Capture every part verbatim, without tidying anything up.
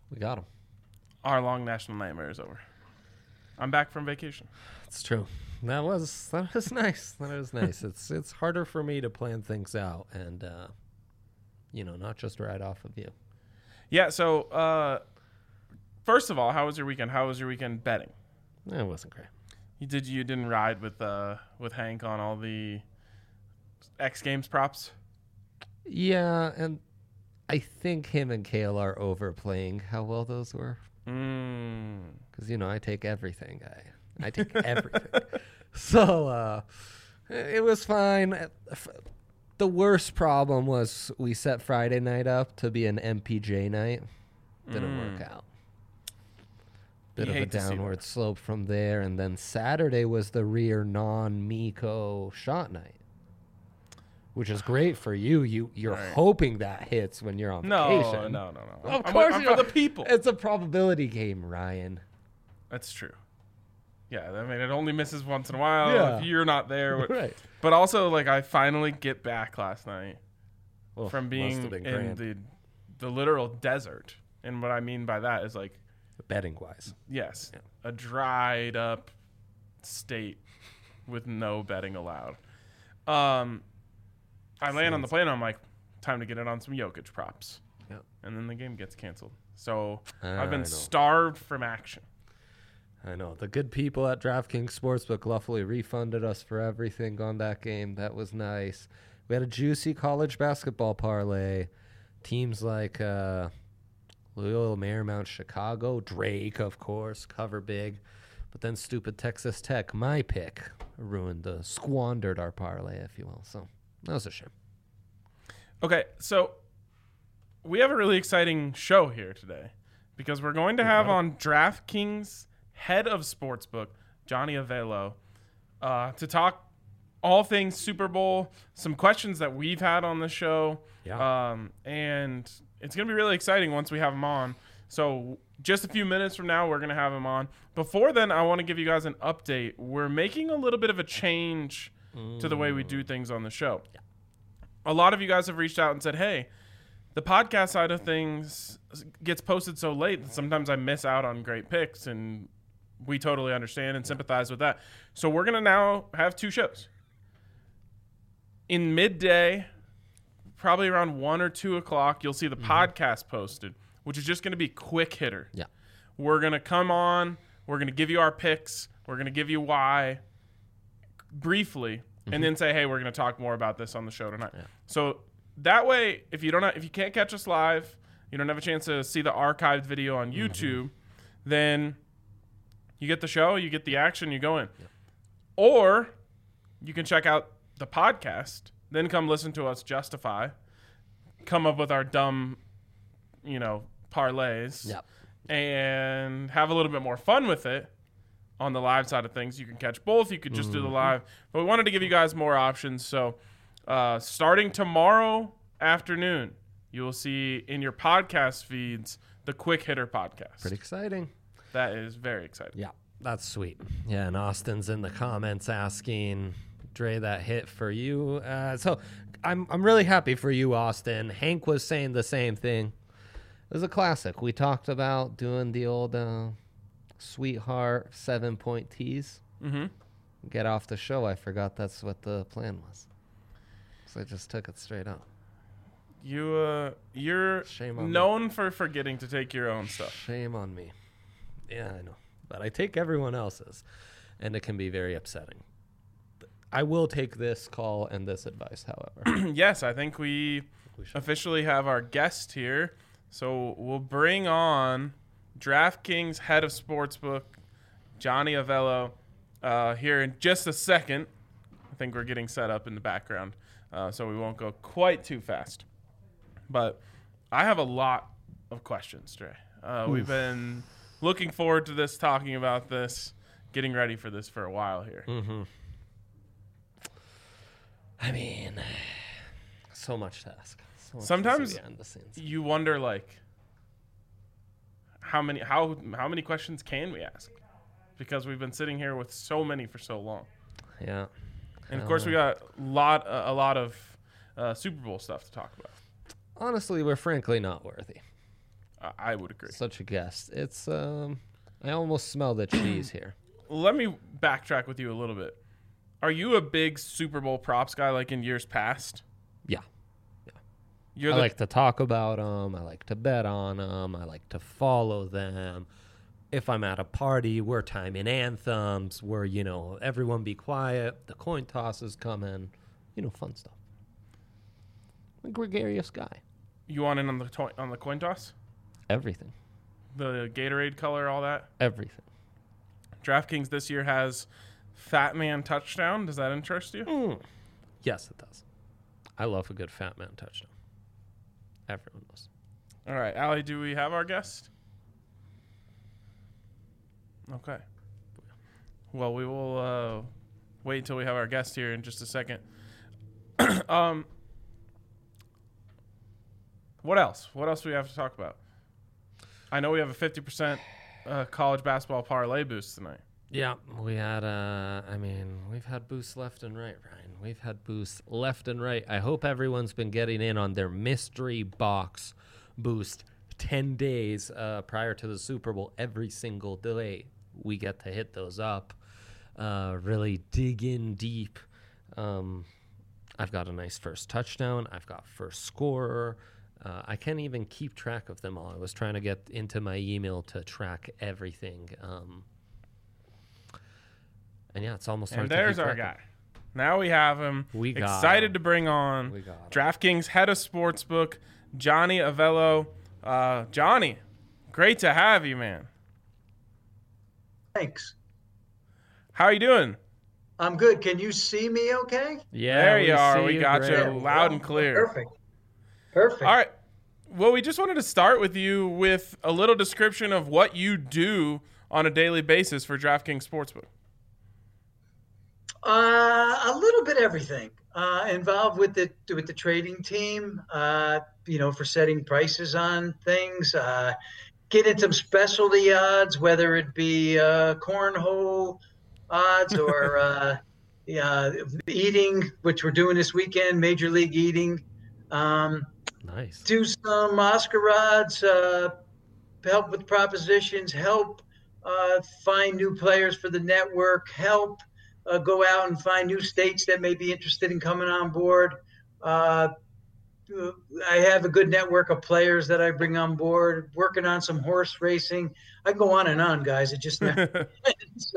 We got him. Our long national nightmare is over. I'm back from vacation. It's true. That was that was nice. That was nice. It's it's harder for me to plan things out and, uh, you know, not just right off of you. Yeah. So, uh, first of all, how was your weekend? How was your weekend betting? It wasn't great. You did you didn't ride with uh with Hank on all the X Games props? Yeah, and I think him and Kale are overplaying how well those were. Mm. Because, you know, I take everything. I, I take everything. So uh, it was fine. The worst problem was we set Friday night up to be an M P J night. Didn't Mm. work out. Bit You of a hate to see downward that. slope from there. And then Saturday was the rear non-Miko shot night. Which is great for you. You you're Right. hoping that hits when you're on No, vacation. no, no, no. Of I'm, course I'm you for are. the people. It's a probability game, Ryan. That's true. Yeah, I mean, it only misses once in a while Yeah. if you're not there. Right. But also, like, I finally get back last night Oh, from must being have been in grand. the the literal desert. And what I mean by that is, like, Betting wise. yes, Yeah. a dried up state with no betting allowed. Um, I land on the plane. I'm like, time to get it on some Jokic props. Yep. And then the game gets canceled. So Ah, I've been I know. starved from action. I know. The good people at DraftKings Sportsbook luckily refunded us for everything on that game. That was nice. We had a juicy college basketball parlay. Teams like uh, Loyola Marymount, Chicago, Drake, of course, cover big. But then stupid Texas Tech, my pick, ruined, uh, squandered our parlay, if you will. So that was a shame. Okay, so we have a really exciting show here today because we're going to have on DraftKings head of sportsbook, Johnny Avello, uh, to talk all things Super Bowl, some questions that we've had on the show. Yeah. Um, and it's going to be really exciting once we have him on. So just a few minutes from now, we're going to have him on. Before then, I want to give you guys an update. We're making a little bit of a change to the way we do things on the show. Yeah. A lot of you guys have reached out and said, hey, the podcast side of things gets posted so late that sometimes I miss out on great picks, and we totally understand and sympathize with that. So we're going to now have two shows. In midday, probably around one or two o'clock, you'll see the mm-hmm. podcast posted, which is just going to be quick hitter. Yeah. We're going to come on. We're going to give you our picks. We're going to give you why briefly, mm-hmm. and then say, hey, we're going to talk more about this on the show tonight. Yeah. So that way, if you don't, have, if you can't catch us live, you don't have a chance to see the archived video on YouTube, mm-hmm. then you get the show, you get the action, you go in. Yeah. Or you can check out the podcast, then come listen to us justify, come up with our dumb, you know, parlays, Yep. and have a little bit more fun with it on the live side of things. You can catch both. You could just mm-hmm. do the live. But we wanted to give you guys more options. So uh, starting tomorrow afternoon, you will see in your podcast feeds the Quick Hitter podcast. Pretty exciting. That is very exciting. Yeah, that's sweet. Yeah, and Austin's in the comments asking, Dre, that hit for you. Uh, so I'm I'm really happy for you, Austin. Hank was saying the same thing. It was a classic. We talked about doing the old uh, sweetheart seven-point tease. Mm-hmm. Get off the show. I forgot that's what the plan was. So I just took it straight up. You, uh, you're Shame on known me. for forgetting to take your own stuff. Shame on me. Yeah, I know. But I take everyone else's, and it can be very upsetting. I will take this call and this advice, however. Yes, I think we, we officially have our guest here. So we'll bring on DraftKings head of sportsbook, Johnny Avello, uh, here in just a second. I think we're getting set up in the background, uh, so we won't go quite too fast. But I have a lot of questions, Dre. Uh, we've been looking forward to this, talking about this, getting ready for this for a while here. Mm-hmm. I mean, so much to ask. So much Sometimes to see behind the scenes. You wonder, like, how many how how many questions can we ask? Because we've been sitting here with so many for so long. Yeah. And of course, we got a lot uh, a lot of uh, Super Bowl stuff to talk about. Honestly, we're frankly not worthy. I, I would agree. Such a guest. It's um, I almost smell the cheese here. Let me backtrack with you a little bit. Are you a big Super Bowl props guy like in years past? Yeah. Yeah. You're I the, like to talk about them. I like to bet on them. I like to follow them. If I'm at a party, we're timing anthems. We're, you know, everyone be quiet. The coin toss is coming. You know, fun stuff. I'm a gregarious guy. You want in on the to- on the coin toss? Everything. The Gatorade color, all that? Everything. DraftKings this year has Fat Man touchdown. Does that interest you? Mm. Yes, it does. I love a good fat man touchdown. Everyone does. All right, Allie, do we have our guest? Okay. Well, we will uh, wait until we have our guest here in just a second. um, what else? What else do we have to talk about? I know we have a fifty percent uh, college basketball parlay boost tonight. Yeah, we had, uh, I mean, we've had boosts left and right, Ryan. We've had boosts left and right. I hope everyone's been getting in on their mystery box boost ten days uh, prior to the Super Bowl. Every single day we get to hit those up, uh, really dig in deep. Um, I've got a nice first touchdown. I've got first scorer. Uh, I can't even keep track of them all. I was trying to get into my email to track everything. Um, and yeah, it's almost hard And to there's keep our track guy. Now we have him. We got Excited him. to bring on We got him. DraftKings head of sportsbook, Johnny Avello. Uh, Johnny, great to have you, man. Thanks. How are you doing? I'm good. Can you see me okay? Yeah, There you we are. see We got great. you loud and clear. Perfect. Perfect. All right. Well, we just wanted to start with you with a little description of what you do on a daily basis for DraftKings Sportsbook. Uh, a little bit everything. Uh, involved with the with the trading team. Uh, you know, for setting prices on things. Uh, getting some specialty odds, whether it be uh, cornhole odds or uh, yeah, eating, which we're doing this weekend, Major League Eating. Um, Nice. do some Oscar odds, uh, help with propositions, help uh, find new players for the network, help uh, go out and find new states that may be interested in coming on board. Uh, I have a good network of players that I bring on board, working on some horse racing. I can go on and on, guys. It just never ends.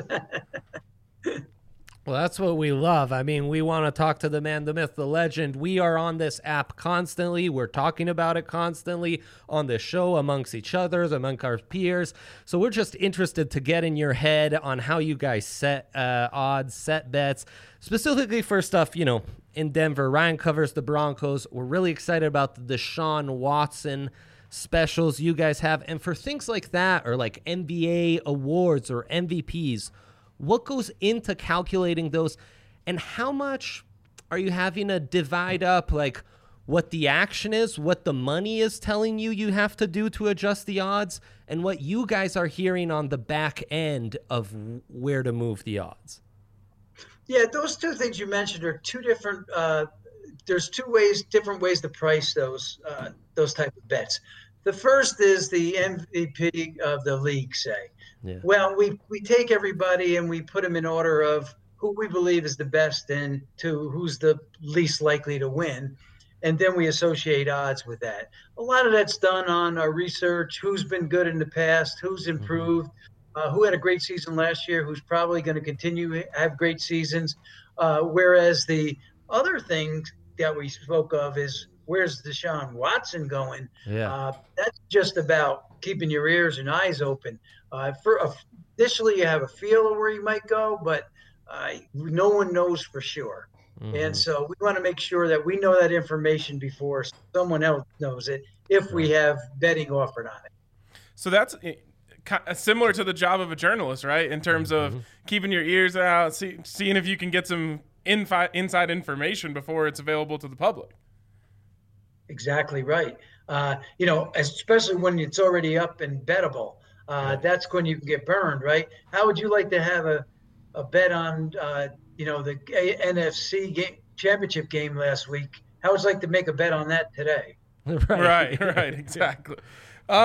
Well, that's what we love. I mean, we want to talk to the man, the myth, the legend. We are on this app constantly. We're talking about it constantly on the show amongst each other, among our peers. So we're just interested to get in your head on how you guys set uh, odds, set bets, specifically for stuff, you know, in Denver. Ryan covers the Broncos. We're really excited about the Deshaun Watson specials you guys have. And for things like that, or like N B A awards or M V Ps, what goes into calculating those, and how much are you having to divide up, like what the action is, what the money is telling you you have to do to adjust the odds, and what you guys are hearing on the back end of where to move the odds? Yeah, those two things you mentioned are two different. Uh, there's two ways, different ways to price those uh, those type of bets. The first is the M V P of the league, say. Yeah. Well, we, we take everybody and we put them in order of who we believe is the best and to who's the least likely to win. And then we associate odds with that. A lot of that's done on our research, who's been good in the past, who's improved, uh, who had a great season last year, who's probably going to continue to have great seasons. Uh, whereas the other thing that we spoke of is, where's Deshaun Watson going? Yeah. Uh, that's just about keeping your ears and eyes open. Uh, for uh, initially, you have a feel of where you might go, but uh, no one knows for sure. Mm-hmm. And so we want to make sure that we know that information before someone else knows it, if right. we have betting offered on it. So that's similar to the job of a journalist, right? In terms mm-hmm. of keeping your ears out, see, seeing if you can get some infi- inside information before it's available to the public. Exactly right. Uh, you know, especially when it's already up and bettable. Uh, that's when you can get burned, right? How would you like to have a, a bet on, uh, you know, the N F C game, championship game last week? How would you like to make a bet on that today? Right, right, right exactly. Um,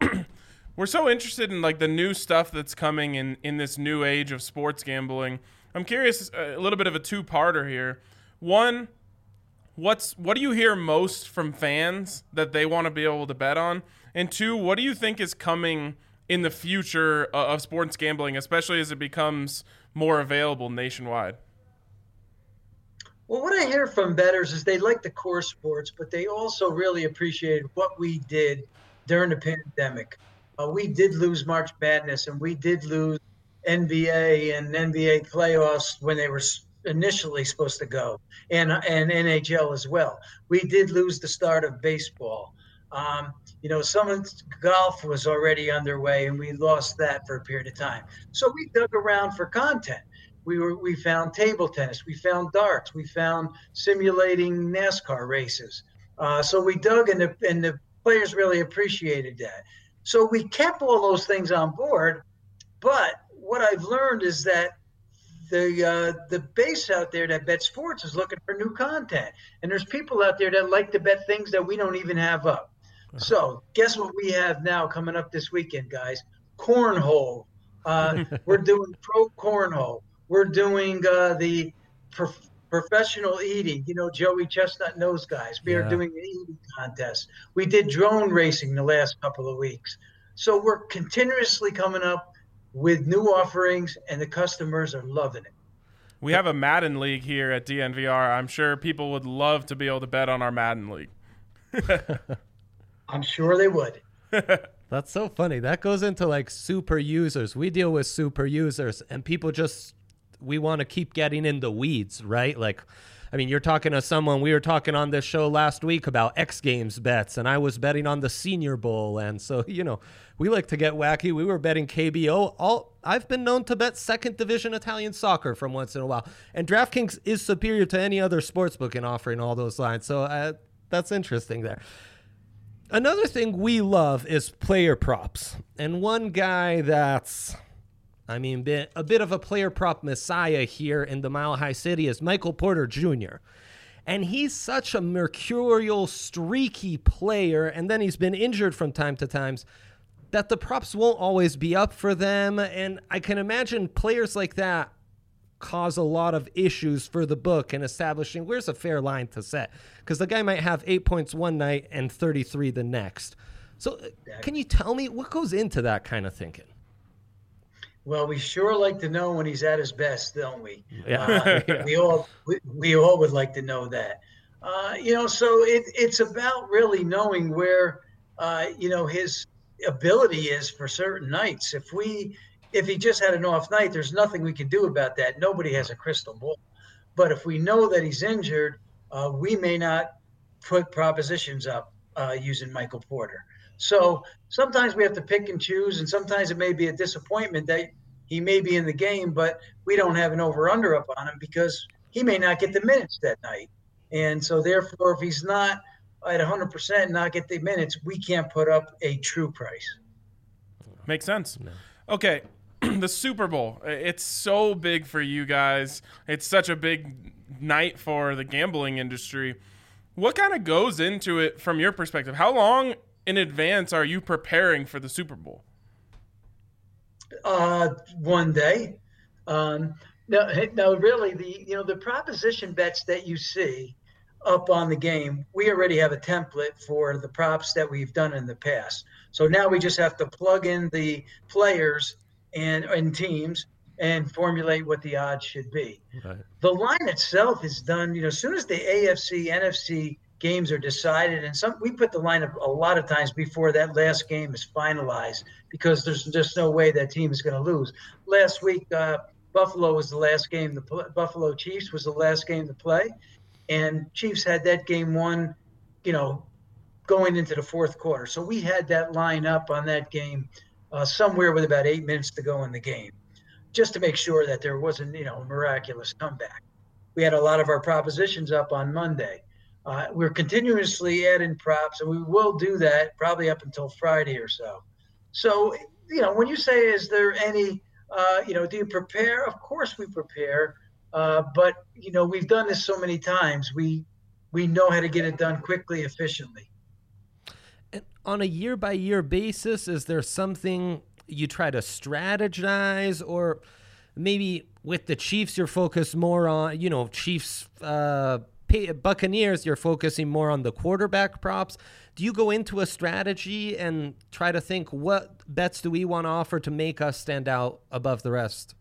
we're so interested in like the new stuff that's coming in, in this new age of sports gambling. I'm curious, a little bit of a two-parter here. One, what's what do you hear most from fans that they want to be able to bet on? And two, what do you think is coming in the future of sports gambling, especially as it becomes more available nationwide? Well, what I hear from bettors is they like the core sports, but they also really appreciated what we did during the pandemic. Uh, we did lose March Madness, and we did lose N B A and N B A playoffs when they were initially supposed to go, and and N H L as well. We did lose the start of baseball. Um, you know, some of golf was already underway, and we lost that for a period of time. So we dug around for content. We were we found table tennis, we found darts, we found simulating NASCAR races. Uh, so we dug, and the and the players really appreciated that. So we kept all those things on board. But what I've learned is that the uh, the base out there that bet sports is looking for new content, and there's people out there that like to bet things that we don't even have up. So guess what we have now coming up this weekend, guys? Cornhole. Uh, we're doing pro cornhole. We're doing uh, the prof- professional eating. You know, Joey Chestnut and those guys. We yeah. are doing an eating contest. We did drone racing the last couple of weeks. So we're continuously coming up with new offerings, and the customers are loving it. We have a Madden League here at D N V R. I'm sure people would love to be able to bet on our Madden League. I'm sure they would. That's so funny. That goes into like super users. We deal with super users, and people just, we want to keep getting in the weeds, right? Like, I mean, you're talking to someone, we were talking on this show last week about X Games bets, and I was betting on the Senior Bowl. And so, you know, we like to get wacky. We were betting K B O. All I've been known to bet second division Italian soccer from once in a while. And DraftKings is superior to any other sportsbook in offering all those lines. So uh, that's interesting there. Another thing we love is player props. And one guy that's, I mean, been a bit of a player prop messiah here in the Mile High City is Michael Porter Junior And he's such a mercurial, streaky player, and then he's been injured from time to time, that the props won't always be up for them. And I can imagine players like that cause a lot of issues for the book in establishing where's a fair line to set, because the guy might have eight points one night and thirty-three the next. So can you tell me what goes into that kind of thinking? Well, we sure like to know when he's at his best, don't we? Yeah. Uh, yeah. We all we, we all would like to know that. Uh, you know, so it, it's about really knowing where uh, you know his ability is for certain nights. If we if he just had an off night, there's nothing we can do about that. Nobody has a crystal ball. But if we know that he's injured, uh, we may not put propositions up uh, using Michael Porter. So sometimes we have to pick and choose, and sometimes it may be a disappointment that he may be in the game, but we don't have an over-under up on him because he may not get the minutes that night. And so therefore, if he's not at one hundred percent not get the minutes, we can't put up a true price. Makes sense. No. Okay. The Super Bowl, it's so big for you guys. It's such a big night for the gambling industry. What kind of goes into it from your perspective? How long in advance are you preparing for the Super Bowl? Uh, one day. Um, no, no, really, the you know the proposition bets that you see up on the game, we already have a template for the props that we've done in the past. So now we just have to plug in the players and, and teams and formulate what the odds should be. Right. The line itself is done, you know, as soon as the A F C, N F C games are decided, and some we put the line up a lot of times before that last game is finalized because there's just no way that team is going to lose. Last week, uh, Buffalo was the last game. The Buffalo Chiefs was the last game to play, and Chiefs had that game won, you know, going into the fourth quarter. So we had that line up on that game uh, somewhere with about eight minutes to go in the game, just to make sure that there wasn't, you know, a miraculous comeback. We had a lot of our propositions up on Monday. Uh, we're continuously adding props, and we will do that probably up until Friday or so. So, you know, when you say, is there any, uh, you know, do you prepare? Of course we prepare, uh, but, you know, we've done this so many times. We we know how to get it done quickly, efficiently. And on a year-by-year basis, is there something you try to strategize, or maybe with the Chiefs you're focused more on, you know, Chiefs, uh, Buccaneers, you're focusing more on the quarterback props. Do you go into a strategy and try to think, what bets do we want to offer to make us stand out above the rest?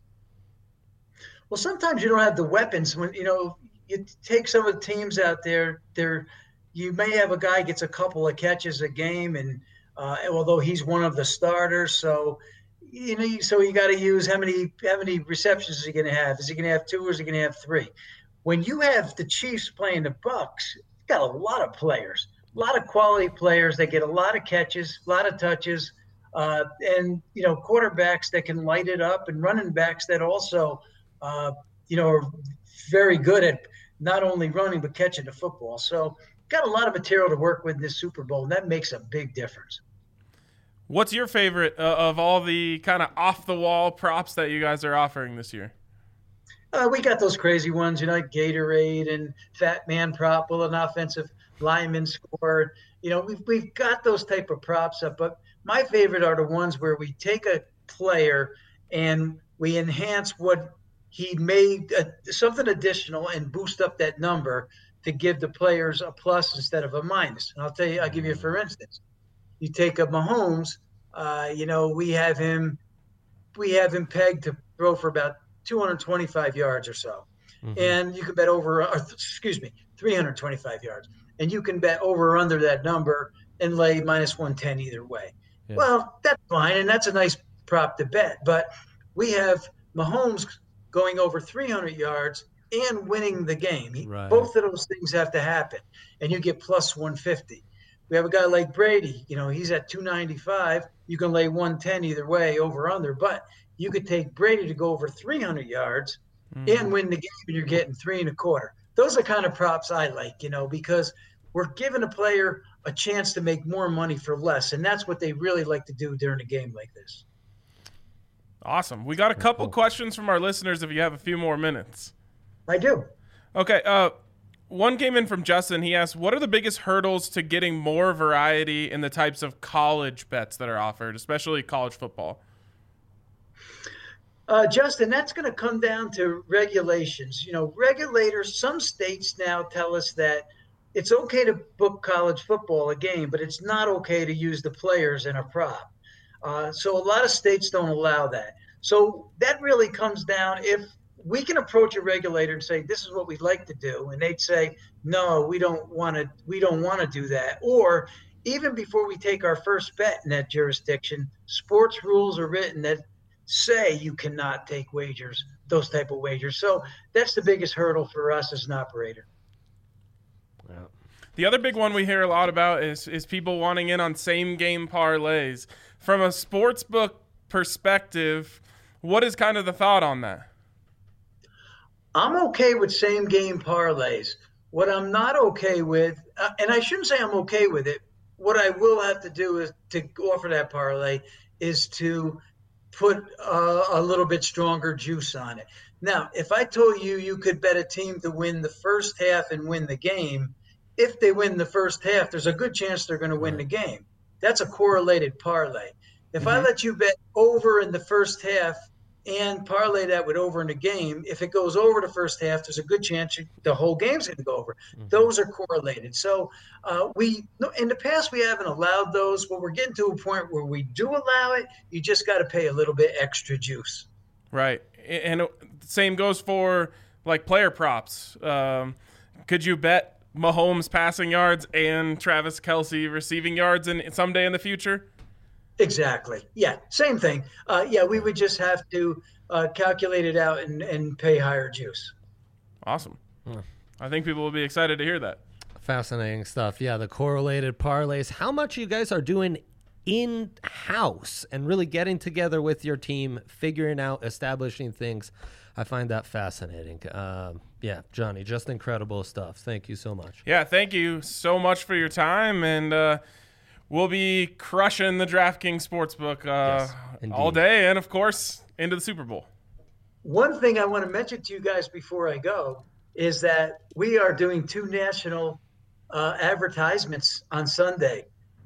Well, sometimes you don't have the weapons. When you know, you take some of the teams out there, they're you may have a guy gets a couple of catches a game, and uh, although he's one of the starters, so you know, so you got to use how many how many receptions is he going to have? Is he going to have two, or is he going to have three? When you have the Chiefs playing the Bucks, you got a lot of players, a lot of quality players. They get a lot of catches, a lot of touches, uh, and you know, quarterbacks that can light it up, and running backs that also, uh, you know, are very good at not only running but catching the football. So got a lot of material to work with in this Super Bowl, and that makes a big difference. What's your favorite uh, of all the kind of off-the-wall props that you guys are offering this year? Uh, we got those crazy ones, you know, like Gatorade and Fat Man prop, will an offensive lineman score. You know, we've, we've got those type of props up, but my favorite are the ones where we take a player and we enhance what he made, uh, something additional, and boost up that number to give the players a plus instead of a minus. And I'll tell you, I'll give you, for instance, you take a Mahomes, uh, you know, we have him, we have him pegged to throw for about two hundred twenty-five yards or so. Mm-hmm. And you can bet over, or, excuse me, three hundred twenty-five yards. And you can bet over or under that number and lay minus one ten either way. Yeah. Well, that's fine. And that's a nice prop to bet. But we have Mahomes going over three hundred yards and winning the game. Right. Both of those things have to happen. And you get plus one fifty. We have a guy like Brady, you know, he's at two ninety-five. You can lay one ten either way, over under. But you could take Brady to go over three hundred yards mm. and win the game, and you're getting three and a quarter. Those are kind of props I like, you know, because we're giving a player a chance to make more money for less. And that's what they really like to do during a game like this. Awesome. We got a couple cool. questions from our listeners if you have a few more minutes. I do. Okay. Uh, one came in from Justin. He asked, what are the biggest hurdles to getting more variety in the types of college bets that are offered, especially college football? Uh, Justin, that's going to come down to regulations. You know, regulators, some states now tell us that it's okay to book college football a game, but it's not okay to use the players in a prop. Uh, so a lot of states don't allow that. So that really comes down, if we can approach a regulator and say, this is what we'd like to do, and they'd say, no, we don't want to, we don't want to do that. Or even before we take our first bet in that jurisdiction, sports rules are written that say you cannot take wagers, those type of wagers. So that's the biggest hurdle for us as an operator. Yeah. The other big one we hear a lot about is is people wanting in on same game parlays. From a sports book perspective, what is kind of the thought on that? I'm okay with same game parlays. What I'm not okay with, uh, and I shouldn't say I'm okay with it, what I will have to do is to offer that parlay is to put uh, a little bit stronger juice on it. Now, if I told you you could bet a team to win the first half and win the game, if they win the first half, there's a good chance they're going to win the game. That's a correlated parlay. If mm-hmm. I let you bet over in the first half and parlay that with over in the game, if it goes over the first half, there's a good chance the whole game's going to go over. Mm-hmm. Those are correlated. So uh, we, in the past, we haven't allowed those, but we're getting to a point where we do allow it. You just got to pay a little bit extra juice. Right. And same goes for like player props. Um, could you bet Mahomes passing yards and Travis Kelce receiving yards in someday in the future? Exactly. Yeah. Same thing. Uh, yeah. We would just have to uh, calculate it out and, and pay higher juice. Awesome. Hmm. I think people will be excited to hear that. Fascinating stuff. Yeah. The correlated parlays, how much you guys are doing in-house and really getting together with your team, figuring out, establishing things. I find that fascinating. Um, yeah, Johnny, just incredible stuff. Thank you so much. Yeah, thank you so much for your time. And uh, we'll be crushing the DraftKings Sportsbook uh, yes, all day and, of course, into the Super Bowl. One thing I want to mention to you guys before I go is that we are doing two national uh, advertisements on Sunday.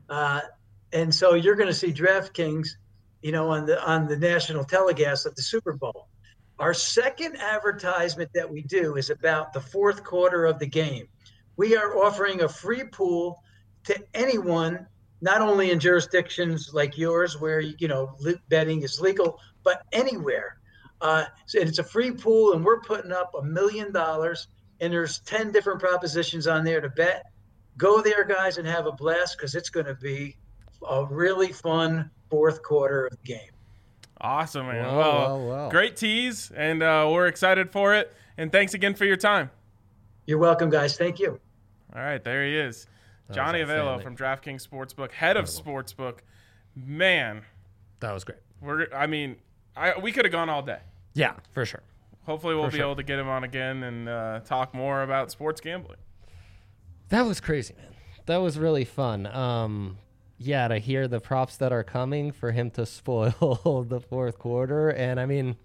Uh, and so you're going to see DraftKings, you know, on the on the national telecast of the Super Bowl. Our second advertisement that we do is about the fourth quarter of the game. We are offering a free pool to anyone, not only in jurisdictions like yours where, you know, betting is legal, but anywhere. Uh, so it's a free pool, and we're putting up a million dollars, and there's ten different propositions on there to bet. Go there, guys, and have a blast, because it's going to be a really fun fourth quarter of the game. Awesome, man. Wow, well, wow, wow. Great tease, and uh, we're excited for it. And thanks again for your time. You're welcome, guys. Thank you. All right, there he is. Johnny Avello from DraftKings Sportsbook, head of Sportsbook. Man. That was great. We're. I mean, I we could have gone all day. Yeah, for sure. Hopefully we'll For be sure. able to get him on again and uh, talk more about sports gambling. That was crazy, man. That was really fun. Um, yeah, to hear the props that are coming for him to spoil the fourth quarter. And I mean,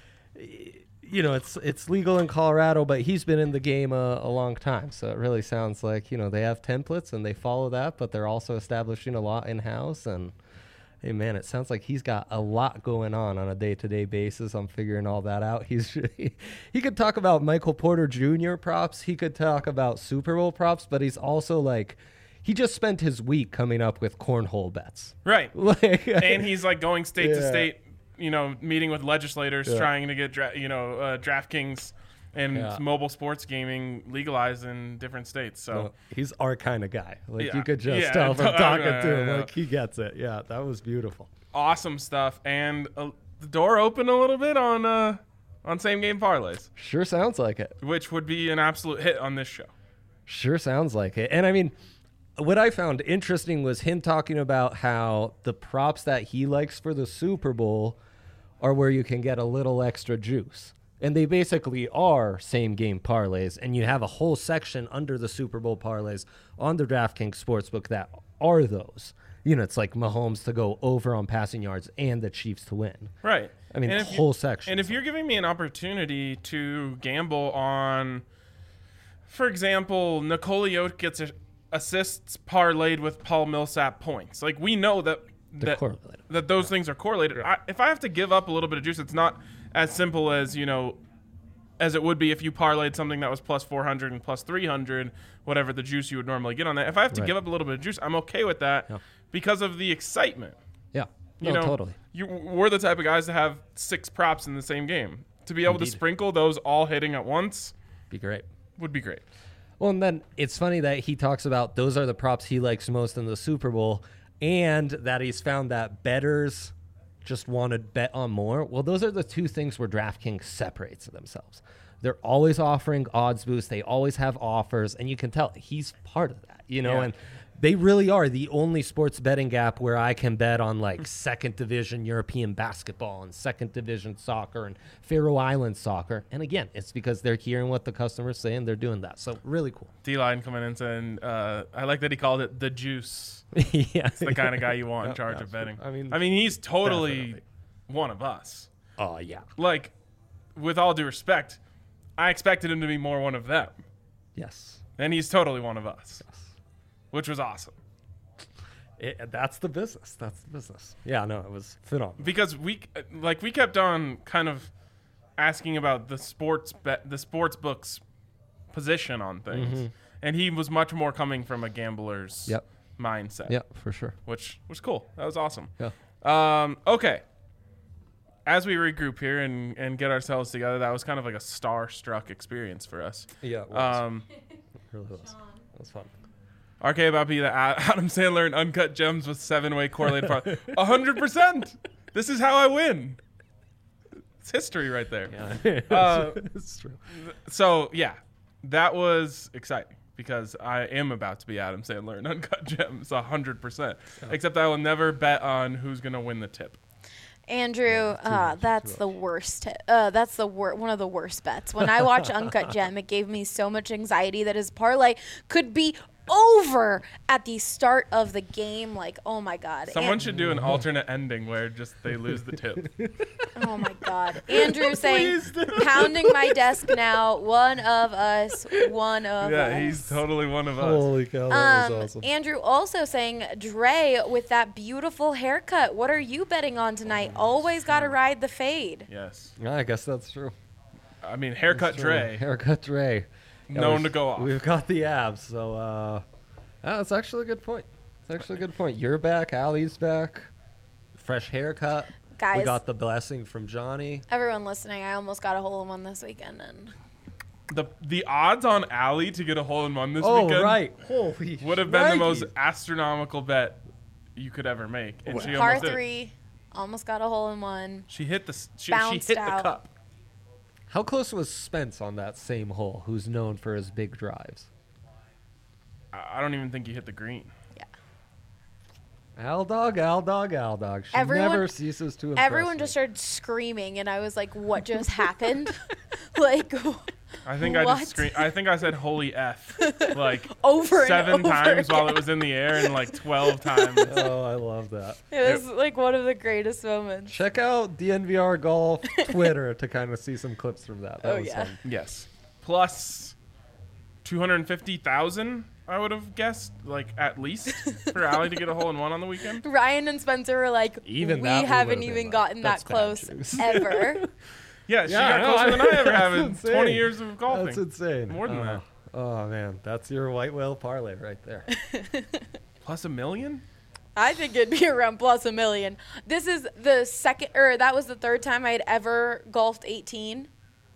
you know, it's it's legal in Colorado, but he's been in the game a, a long time. So it really sounds like, you know, they have templates and they follow that, but they're also establishing a lot in-house. And hey, man, it sounds like he's got a lot going on on a day-to-day basis. I'm figuring all that out. He's he, he could talk about Michael Porter Junior props. He could talk about Super Bowl props, but he's also like, he just spent his week coming up with cornhole bets. Right. Like, And he's like going state to Yeah. state, you know, meeting with legislators, Yeah. trying to get, dra- you know, uh, DraftKings and Yeah. mobile sports gaming legalized in different states. So no, he's our kind of guy. Like Yeah. you could just Yeah, tell from I know, talking I to him, know. like he gets it. Yeah, that was beautiful. awesome stuff. And uh, the door opened a little bit on uh, on same game parlays, Sure sounds like it. which would be an absolute hit on this show. Sure sounds like it. And I mean, what I found interesting was him talking about how the props that he likes for the Super Bowl are where you can get a little extra juice. And they basically are same game parlays. And you have a whole section under the Super Bowl parlays on the DraftKings Sportsbook that are those. You know, it's like Mahomes to go over on passing yards and the Chiefs to win. Right. I mean, And the if you- whole section. And if you're giving me an opportunity to gamble on, for example, Nikola Jokic gets a, assists parlayed with Paul Millsap points, like we know that They're that, correlated. that those things are correlated. I, if I have to give up a little bit of juice, it's not as simple as, you know, as it would be if you parlayed something that was plus four hundred and plus three hundred, whatever the juice you would normally get on that. If I have to Right. give up a little bit of juice, I'm okay with that Yeah. because of the excitement. Yeah. You no, know, totally. You, we're the type of guys to have six props in the same game. To be able to Indeed. sprinkle those all hitting at once Be great. would be great. Well, and then it's funny that he talks about those are the props he likes most in the Super Bowl, and that he's found that bettors just want to bet on more. Well, those are the two things where DraftKings separates themselves. They're always offering odds boosts. They always have offers, and you can tell he's part of that, you know, Yeah. and they really are the only sports betting app where I can bet on like second division European basketball and second division soccer and Faroe Island soccer. And again, it's because they're hearing what the customers say and they're doing that. So really cool. D-Line coming in saying, uh, I like that he called it the juice. Yeah. It's the kind of guy you want in Yeah, charge of absolutely. betting. I mean, I mean, he's totally definitely. one of us. Oh, yeah. Like, with all due respect, I expected him to be more one of them. Yes. And he's totally one of us, which was awesome. It, that's the business. That's the business. Yeah, no, it was phenomenal. Because we, like, we kept on kind of asking about the sports bet, the sports book's position on things. Mm-hmm. And he was much more coming from a gambler's Yep. mindset. Yeah, for sure. Which was cool. That was awesome. Yeah. Um, okay. As we regroup here and, and get ourselves together, that was kind of like a star-struck experience for us. Yeah, it was. Um, it really was. It was fun. R K about be the Adam Sandler and Uncut Gems with seven-way correlated parlay. A hundred percent. This is how I win. It's history right there. Yeah. Uh, it's true. So yeah, that was exciting because I am about to be Adam Sandler and Uncut Gems a hundred percent. Except I will never bet on who's gonna win the tip. Andrew, Yeah, too uh, much, that's too the worst. Uh, that's the wor- one of the worst bets. When I watch Uncut Gem, it gave me so much anxiety that his parlay could be over at the start of the game. Like, oh my God. Someone And- should do an alternate ending where just they lose the tip. Oh my God. Andrew saying, Please do. pounding my desk now. One of us. One of us. Yeah, he's totally one of us. Holy cow, that Um, was awesome. Andrew also saying, Dre with that beautiful haircut. What are you betting on tonight? Always got to ride the fade. Yes. Yeah, I guess that's true. I mean, haircut That's true. Dre, Haircut Dre. Yeah, known we've- to go off. We've got the abs, so uh, yeah, that's actually a good point. It's actually a good point. You're back. Allie's back. Fresh haircut. We Guys, got the blessing from Johnny. everyone listening, I almost got a hole in one this weekend. And The the odds on Allie to get a hole in one this Oh, weekend right. Holy would have been the most shnikes. astronomical bet you could ever make. And she par almost did. three, almost got a hole in one. She hit the s- she, she Bounced hit out. the cup. How close was Spence on that same hole, who's known for his big drives? I I don't even think he hit the green. Yeah. Al dog, Al dog, Al dog. She Everyone- never ceases to impress Everyone me. just started screaming, and I was like, "What just happened?" Like I think I What? just screamed. I think I said "Holy f" like over seven and over times while it again. was in the air, and like twelve times. Oh, I love that. It was like one of the greatest moments. Check out D N V R Golf Twitter to kind of see some clips from that. That Oh, was yeah. fun. Yes, plus two hundred fifty thousand. I would have guessed, like at least for Allie to get a hole in one on the weekend. Ryan and Spencer were like, Even "We that we haven't would've been even like, gotten "That's that bad close juice." ever." Yeah, she Yeah, got no, closer than I ever that's have in insane. twenty years of golfing. That's insane. More than oh, that. Oh man, that's your white whale parlay right there. Plus a million? I think it'd be around plus a million. This is the second, or that was the third time I had ever golfed eighteen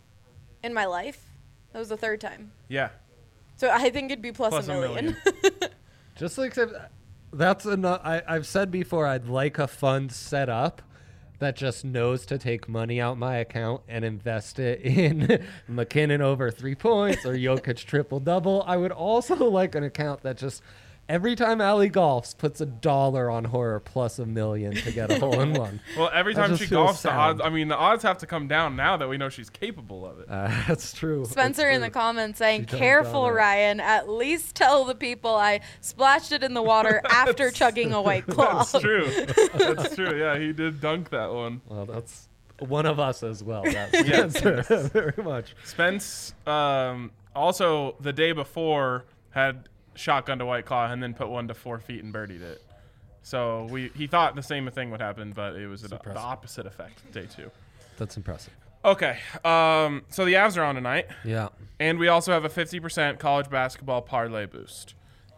in my life. That was the third time. Yeah. So I think it'd be plus, Plus a a million. Just like that's enough. I, I've said before, I'd like a fund set up that just knows to take money out my account and invest it in McKinnon over three points or Jokic triple double. I would also like an account that just every time Allie golfs puts a dollar on horror plus a million to get a hole in one. Well, every That time just she feels golfs, the odds, sound. I mean, the odds have to come down now that we know she's capable of it. Uh, that's true. Spencer That's in the true. comments saying, She done "Careful, done it." Ryan. At least tell the people I splashed it in the water after chugging a white claw." That's true. That's true. Yeah, he did dunk that one. Well, that's one of us as well. That's Yes, Spencer. Very much. Spence um, also the day before had shotgun to White Claw and then put one to four feet and birdied it. So we he thought the same thing would happen, but it was the, the impressive. opposite effect. Day two. That's impressive. Okay, um, so the Avs are on tonight, Yeah. and we also have a fifty percent college basketball parlay boost.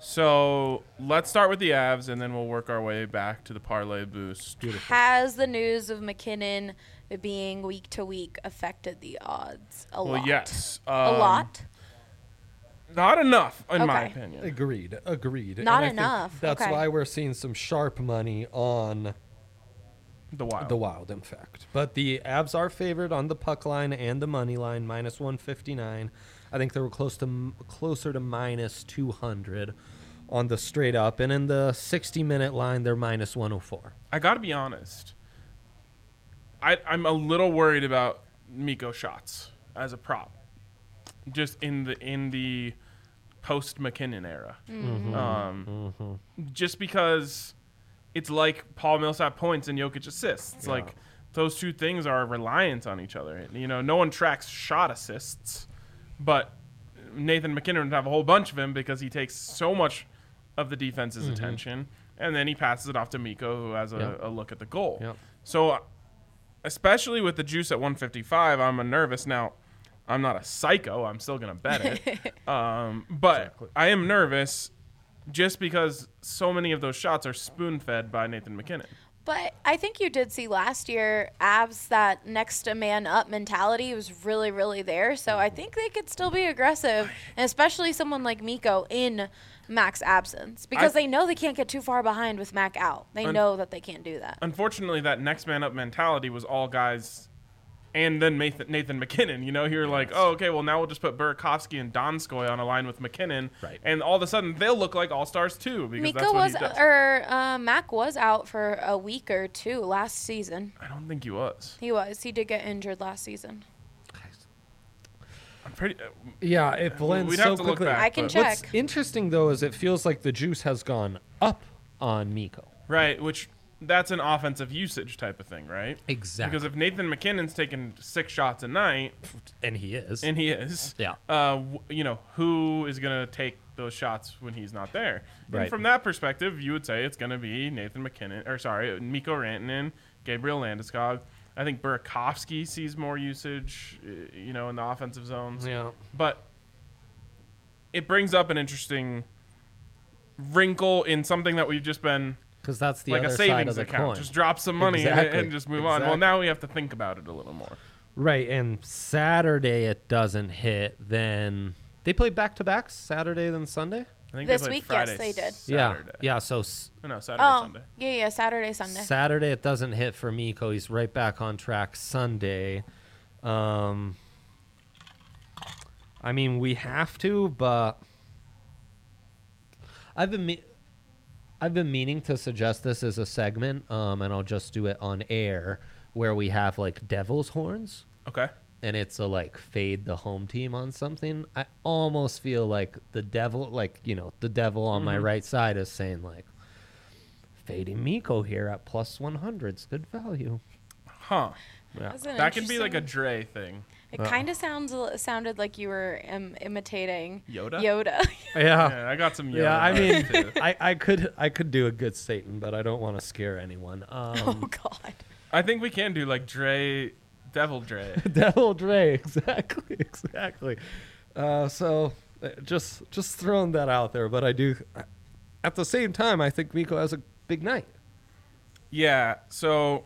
So let's start with the Avs, and then we'll work our way back to the parlay boost. Has the news of McKinnon being week to week affected the odds a Well, lot? yes, A um, lot? Not enough, in my Okay. opinion. Agreed. Agreed. And Not I think enough, That's okay. why we're seeing some sharp money on The Wild. the Wild, in fact. But the Avs are favored on the puck line and the money line, minus one fifty-nine. I think they were close to m- closer to minus two hundred on the straight up, and in the sixty minute line, they're minus one oh four. I got to be honest. I, I'm a little worried about Miko shots as a prop, just in the in the post McKinnon era. Um, Just because it's like Paul Millsap points and Jokic assists. Yeah. Like those two things are reliant on each other. You know, no one tracks shot assists, but Nathan McKinnon would have a whole bunch of them because he takes so much of the defense's attention, and then he passes it off to Miko, who has a, Yeah. a look at the goal. Yep. So, especially with the juice at one fifty-five, I'm a nervous. Now, I'm not a psycho. I'm still going to bet it. um, but Exactly. I am nervous just because so many of those shots are spoon-fed by Nathan McKinnon. But I think you did see last year, Avs, that next to man up mentality was really, really there. So I think they could still be aggressive, and especially someone like Miko in Mac's absence, because I- they know they can't get too far behind with Mac out. They Un- know that they can't do that. Unfortunately, that next man up mentality was all guys, and then Nathan, Nathan McKinnon. You know, you're like, oh, okay, well now we'll just put Burakovsky and Donskoy on a line with McKinnon, Right. and all of a sudden they'll look like all stars too because Miko that's what was, he does. or uh, Mac was out for a week or two last season. I don't think he was. He was. He did get injured last season. I'm pretty. Uh, Yeah, it blends we'd so have to look quickly. back. I can but- check. What's interesting though is it feels like the juice has gone up on Miko. Right, which that's an offensive usage type of thing, right? Exactly. Because if Nathan McKinnon's taking six shots a night, and he is. and he is, Yeah. uh, w- you know, who is going to take those shots when he's not there? Right. And from that perspective, you would say it's going to be Nathan McKinnon, or sorry, Miko Rantanen, Gabriel Landeskog. I think Burakovsky sees more usage, uh, you know, in the offensive zones. Yeah. But it brings up an interesting wrinkle in something that we've just been Because that's the like other a side of savings the account. coin. Just drop some money and- Exactly. and, just move on. Well, Exactly. now we have to think about it a little more. Right, and Saturday it doesn't hit. Then they play back to backs Saturday then Sunday. I think This they played week, yes, Friday, they did. Saturday. Yeah, yeah. So s- Oh, no, Saturday, Oh, Sunday. yeah, yeah, Saturday, Sunday. Saturday it doesn't hit for Miko. He's right back on track Sunday. Um, I mean, we have to, but I've been me- I've been meaning to suggest this as a segment, um, and I'll just do it on air where we have like devil's horns. Okay. And it's a like fade the home team on something. I almost feel like the devil, like, you know, the devil on my right side is saying like fading Miko here at plus one hundred is good value. Huh. Yeah. That's an That can be like a interesting- Dre thing. It kind of sounds sounded like you were um, imitating Yoda? Yoda. Yeah. Yeah, I got some. Yoda Yeah, I mean, vibes, too. I, I could I could do a good Satan, but I don't want to scare anyone. oh Um, God. I think we can do like Dre, Devil Dre. Devil Dre, exactly, exactly. Uh, so uh, just just throwing that out there, but I do. At the same time, I think Miko has a big night. Yeah, so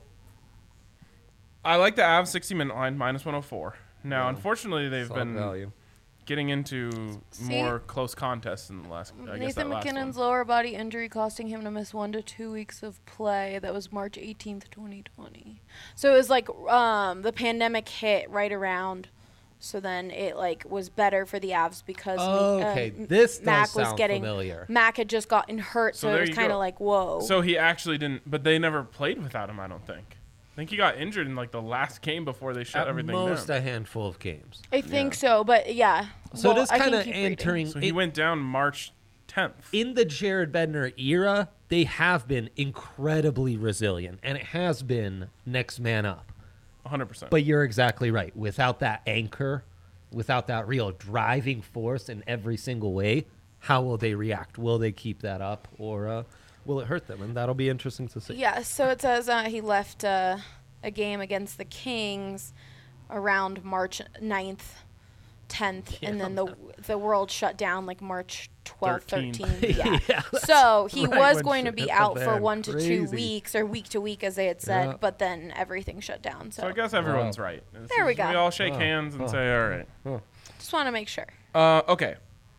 I like the Avs sixty minute line minus one oh four. Now, Yeah. unfortunately, they've Solid been value. getting into See? more close contests in the last. I guess Nathan that last McKinnon's one. lower body injury costing him to miss one to two weeks of play. That was March eighteenth, twenty twenty. So it was like um, the pandemic hit right around. So then it like was better for the Avs because Oh, uh, okay. M- This does Mac was sound getting familiar. Mac had just gotten hurt, So so, there it was you kind go. of like whoa. So he actually didn't, but they never played without him. I don't think. I think he got injured in like the last game before they shut At everything most down. a handful of games. I think so, but yeah. So Well, it is I can kind of keep reading. entering So he it- went down March tenth. in the Jared Bednar era. They have been incredibly resilient, and it has been next man up. one hundred percent. But you're exactly right. Without that anchor, without that real driving force in every single way, how will they react? Will they keep that up, or uh, will it hurt them? And that'll be interesting to see. Yeah, so it says uh, he left uh, a game against the Kings around March ninth, tenth, and then the the world shut down like March twelfth, thirteenth. thirteenth. Yeah. Yeah, that's So he right was when going to shit be hit the out for fan. one to two Crazy. weeks or week to week, as they had said, Yeah. but then everything shut down. So, So I guess everyone's Wow. right. This There we is- go. We all shake Oh, hands and oh. say, "All right." just want to make sure. Uh, okay.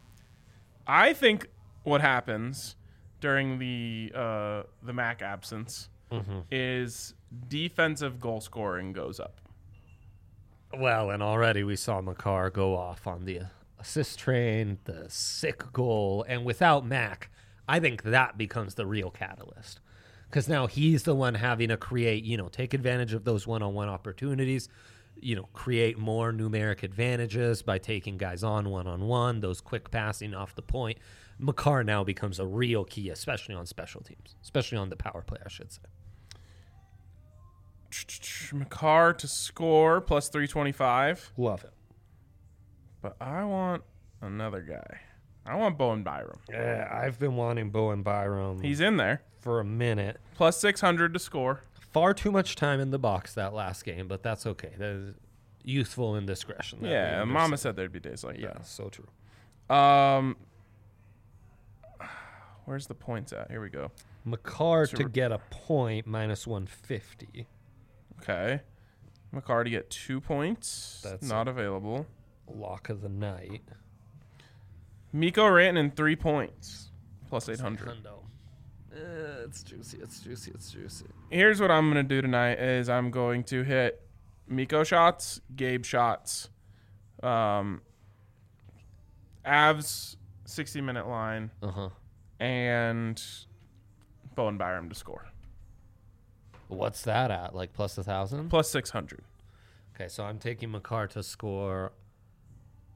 I think what happens during the uh, the Mac absence Mm-hmm. is defensive goal scoring goes up. Well, and already we saw Makar go off on the assist train, the sick goal, and without Mac, I think that becomes the real catalyst. Because now he's the one having to create, you know, take advantage of those one-on-one opportunities, you know, create more numeric advantages by taking guys on one-on-one, those quick passing off the point. Makar now becomes a real key, especially on special teams, especially on the power play, I should say. Makar to score plus three twenty-five. Love it. But I want another guy. I want Bowen Byram. Yeah, I've been wanting Bowen Byram He's in there. for a minute. Plus six hundred to score. Far too much time in the box that last game, but that's okay. That is youthful indiscretion. that we Yeah, understand. Mama said there'd be days like Yeah, so true. that. Um, where's the points at? Here we go. Makar So to we're- get a point minus one fifty. Okay. Makar to get two points. That's That's not available. Lock of the night. Miko Rantanen three points. Plus eight hundred. Hundo. Uh, it's juicy. It's juicy. It's juicy. Here's what I'm going to do tonight is I'm going to hit Miko shots, Gabe shots, um, Avs sixty minute line, Uh huh. and Bowen Byram to score. What's that at? Like plus a thousand? Plus six hundred. Okay, so I'm taking Makar to score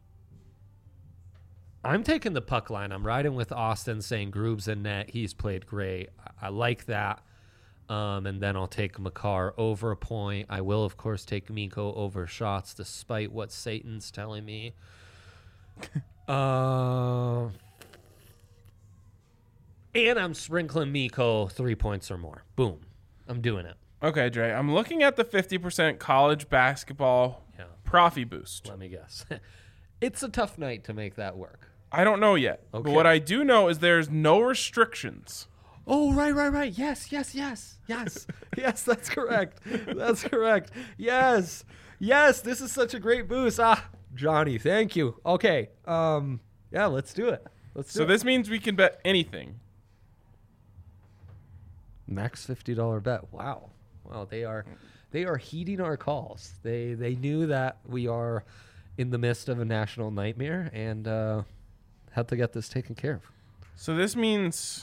I'm taking the puck line. I'm riding with Austin, saying Groove's in net. He's played great. I, I like that. Um, and then I'll take Makar over a point. I will, of course, take Mikko over shots, despite what Satan's telling me. uh, and I'm sprinkling Mikko three points or more. Boom. I'm doing it. Okay, Dre. I'm looking at the fifty percent college basketball Yeah. Profi boost. Let me guess. It's a tough night to make that work. I don't know yet. Okay. But what I do know is there's no restrictions. Oh, right, right, right. Yes, yes, yes, yes. Yes, that's correct. That's correct. Yes, yes, this is such a great boost. Ah, Johnny, thank you. Okay, um, yeah, let's do it. Let's do So it. this means we can bet anything. Max fifty dollar bet. Wow. Wow, they are they are heeding our calls. They they knew that we are in the midst of a national nightmare and uh, had to get this taken care of. So this means...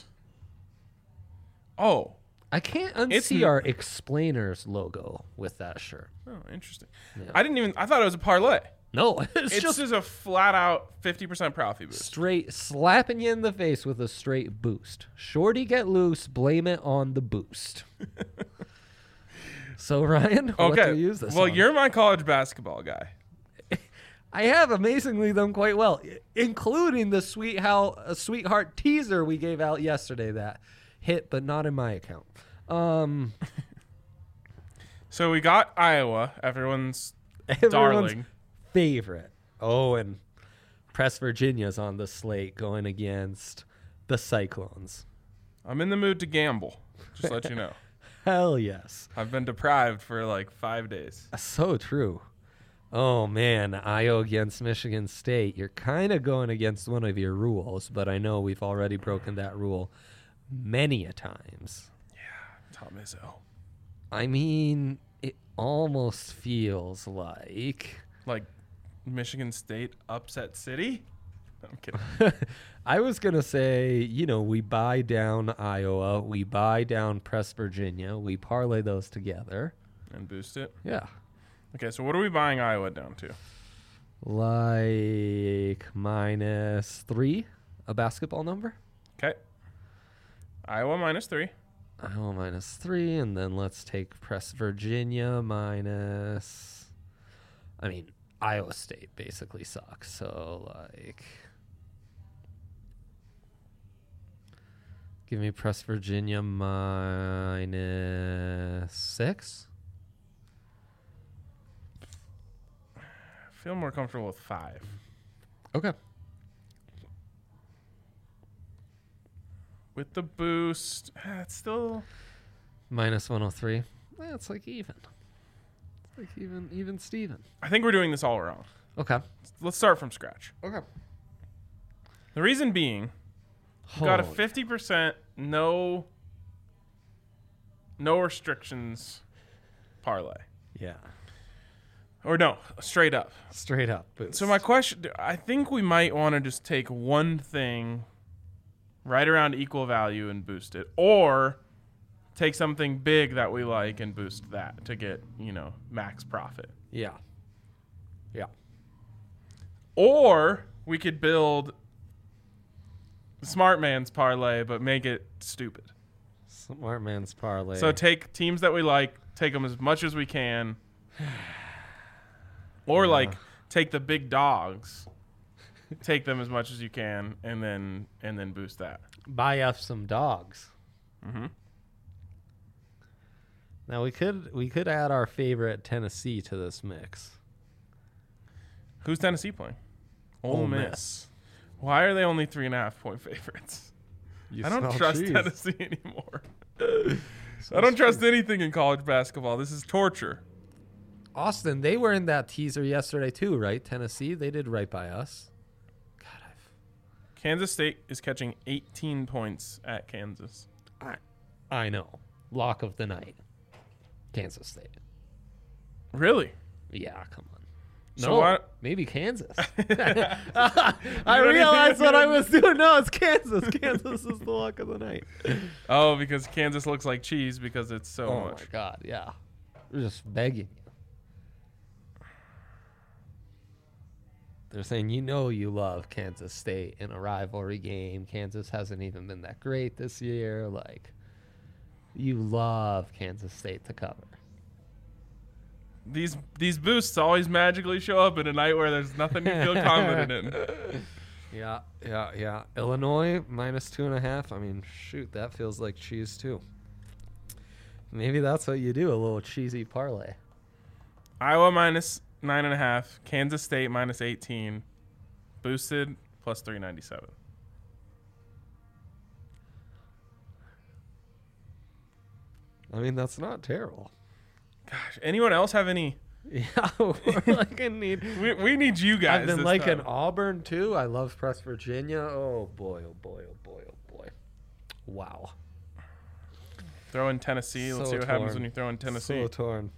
Oh. I can't It's unsee n- our explainers logo with that shirt. Oh, interesting. Yeah. I didn't even... I thought it was a parlay. No, it's, It's just just a flat-out fifty percent Profi boost. straight slapping you in the face with a straight boost. Shorty get loose, blame it on the boost. So Ryan, what do Okay. we use this Well, on? you're my college basketball guy. I have amazingly done quite well, i- including the sweet how a sweetheart teaser we gave out yesterday that hit, but not in my account. Um, So we got Iowa, everyone's everyone's darling. favorite. Oh, and Press Virginia's on the slate going against the Cyclones. I'm in the mood to gamble. Just let you know. Hell yes. I've been deprived for like five days. So true. Oh man, Iowa against Michigan State. You're kind of going against one of your rules, but I know we've already broken that rule many a times. Tom Izzo. I mean, it almost feels like Like Michigan State upset City? I'm kidding. I was going to say, you know, we buy down Iowa, we buy down Press Virginia, we parlay those together. And boost it. Yeah. Okay, so what are we buying Iowa down to? Like minus three, a basketball number. Okay. Iowa minus three. Iowa minus three, and then let's take Press Virginia minus. I mean, Iowa State basically sucks. So, like. Give me Press Virginia minus six. I feel more comfortable with five. Okay. With the boost, eh, it's still... Minus one oh three. That's like even. It's like even, even Steven. I think we're doing this all wrong. Okay. Let's start from scratch. Okay. The reason being, we got a Holy- fifty percent no no restrictions parlay. Yeah. Or no, straight up. Straight up. Boost. So my question, I think we might want to just take one thing right around equal value and boost it, or take something big that we like and boost that to get, you know, max profit. Yeah. Yeah. Or we could build smart man's parlay but make it stupid. Smart man's parlay. So take teams that we like, take them as much as we can. Or Yeah. like take the big dogs, take them as much as you can, and then and then boost that. Buy up some dogs. Mm-hmm. Now we could we could add our favorite Tennessee to this mix. Who's Tennessee playing? Ole, Ole Miss. Miss. Why are they only three and a half point favorites? You I don't smell trust cheese. Tennessee anymore. I don't trust anything in college basketball. This is torture. Austin, they were in that teaser yesterday too, right? Tennessee, they did right by us. God, I've Kansas State is catching eighteen points at Kansas. I, I know. Lock of the night. Kansas State. Really? Yeah, come on. So No, what- maybe Kansas. I realized what I was doing. No, it's Kansas. Kansas is the lock of the night. Oh, because Kansas looks like cheese because it's so Oh much. my God, yeah. We're just begging you. They're saying, you know, you love Kansas State in a rivalry game. Kansas hasn't even been that great this year. Like, you love Kansas State to cover. These these boosts always magically show up in a night where there's nothing you feel confident in. Yeah, yeah, yeah. Illinois minus two and a half. I mean, shoot, that feels like cheese too. Maybe that's what you do, a little cheesy parlay. Iowa minus nine and a half. Kansas State minus eighteen. Boosted plus three ninety seven. I mean, that's not terrible. Gosh, anyone else have any? Yeah, we're like in need. We, we need you guys. I've been this liking time. Auburn too. I love Press Virginia. Oh boy, oh boy, oh boy, oh boy. Wow. Throw in Tennessee. Let's So see what happens torn. when you throw in Tennessee. So torn.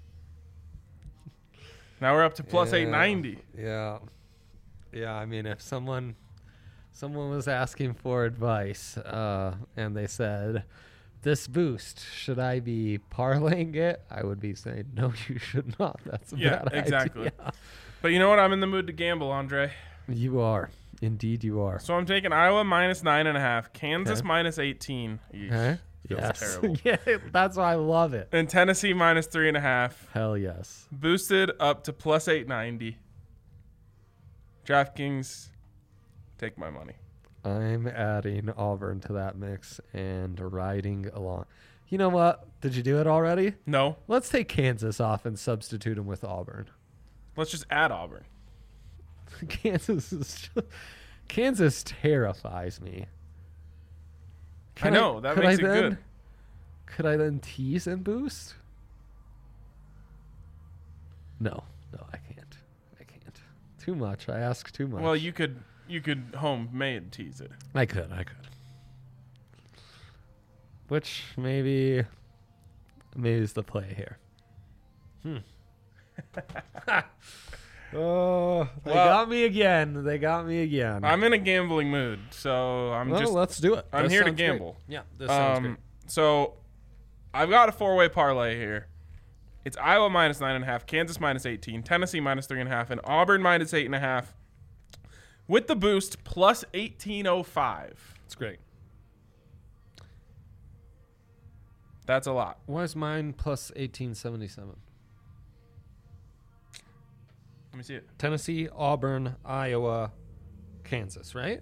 Now we're up to plus Yeah, eight ninety. Yeah. Yeah, I mean, if someone someone was asking for advice uh, and they said, this boost, should I be parlaying it? I would be saying, no, you should not. That's a Yeah, bad exactly. idea. But you know what? I'm in the mood to gamble, Andre. You are. Indeed, you are. So I'm taking Iowa minus nine and a half. Kansas Okay. minus eighteen. Eesh, Huh? feels Yes. terrible. Yeah, that's why I love it. And Tennessee minus three and a half. Hell yes. Boosted up to plus eight ninety. DraftKings, take my money. I'm adding Auburn to that mix and riding along. You know what? Did you do it already? No, Let's take Kansas off and substitute them with Auburn. let's just add Auburn. Kansas is just, Kansas terrifies me. I know, that could makes I it then, good. Could I then tease and boost? No, no, I can't. I can't. Too much. I ask too much. Well, you could you could homemade tease it. I could. I could. Which maybe, maybe is the play here. Hmm. Oh, they Well- got me again. They got me again. I'm in a gambling mood, so I'm well, just let's do it. I'm This here to sounds great. gamble. Yeah, this sounds um. great. So I've got a four-way parlay here. It's Iowa minus nine and a half, Kansas minus eighteen, Tennessee minus three and a half, and Auburn minus eight and a half. With the boost plus eighteen oh five. It's great. That's a lot. Why is mine plus eighteen seventy-seven? Let me see it. Tennessee, Auburn, Iowa, Kansas, right?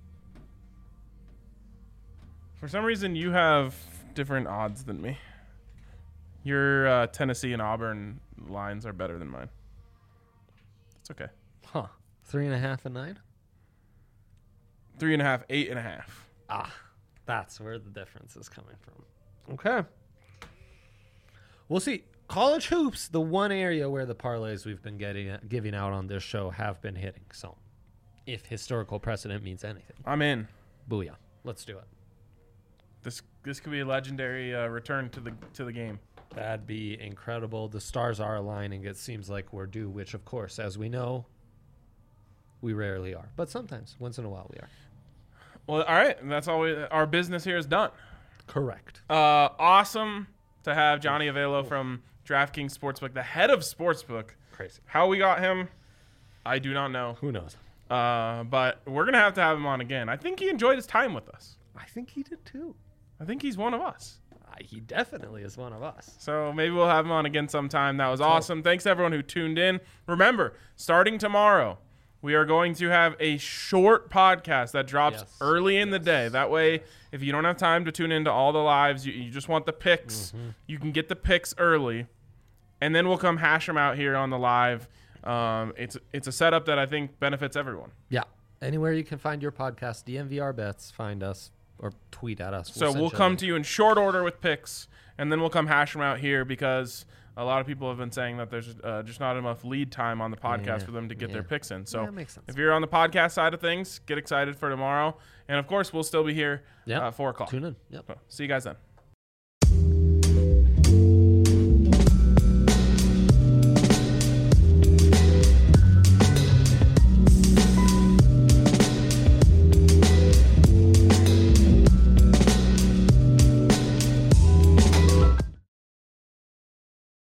For some reason, you have different odds than me. Your uh, Tennessee and Auburn lines are better than mine. It's okay. Huh. Three and a half and nine? Three and a half, eight and a half. Ah, that's where the difference is coming from. Okay. We'll see. College hoops, the one area where the parlays we've been getting giving out on this show have been hitting. So, if historical precedent means anything, I'm in. booyah. Let's do it. This this could be a legendary uh, return to the to the game. That'd be incredible. The stars are aligning. It seems like we're due, which, of course, as we know, we rarely are. But sometimes, once in a while, we are. Well, all right. That's all. We, our business here is done. Correct. Uh, awesome to have Johnny Avelo from DraftKings Sportsbook, the head of Sportsbook. Crazy. How we got him, I do not know. Who knows? Uh, but we're gonna have to have him on again. I think he enjoyed his time with us. I think he did too. I think he's one of us. Uh, he definitely is one of us. So maybe we'll have him on again sometime. That was awesome. Thanks to everyone who tuned in. Remember, starting tomorrow, we are going to have a short podcast that drops Yes. early in the day. That way, if you don't have time to tune into all the lives, you, you just want the picks, Mm-hmm. you can get the picks early. And then we'll come hash them out here on the live. Um, it's it's a setup that I think benefits everyone. Yeah. Anywhere you can find your podcast, D M V R Bets, find us or tweet at us. So we'll come to you in short order with picks, and then we'll come hash them out here because a lot of people have been saying that there's uh, just not enough lead time on the podcast Yeah, for them to get yeah. their picks in. So Yeah, that makes sense. if you're on the podcast side of things, get excited for tomorrow. And, of course, we'll still be here Yeah. uh, four o'clock. Tune in. Yep. So, see you guys then.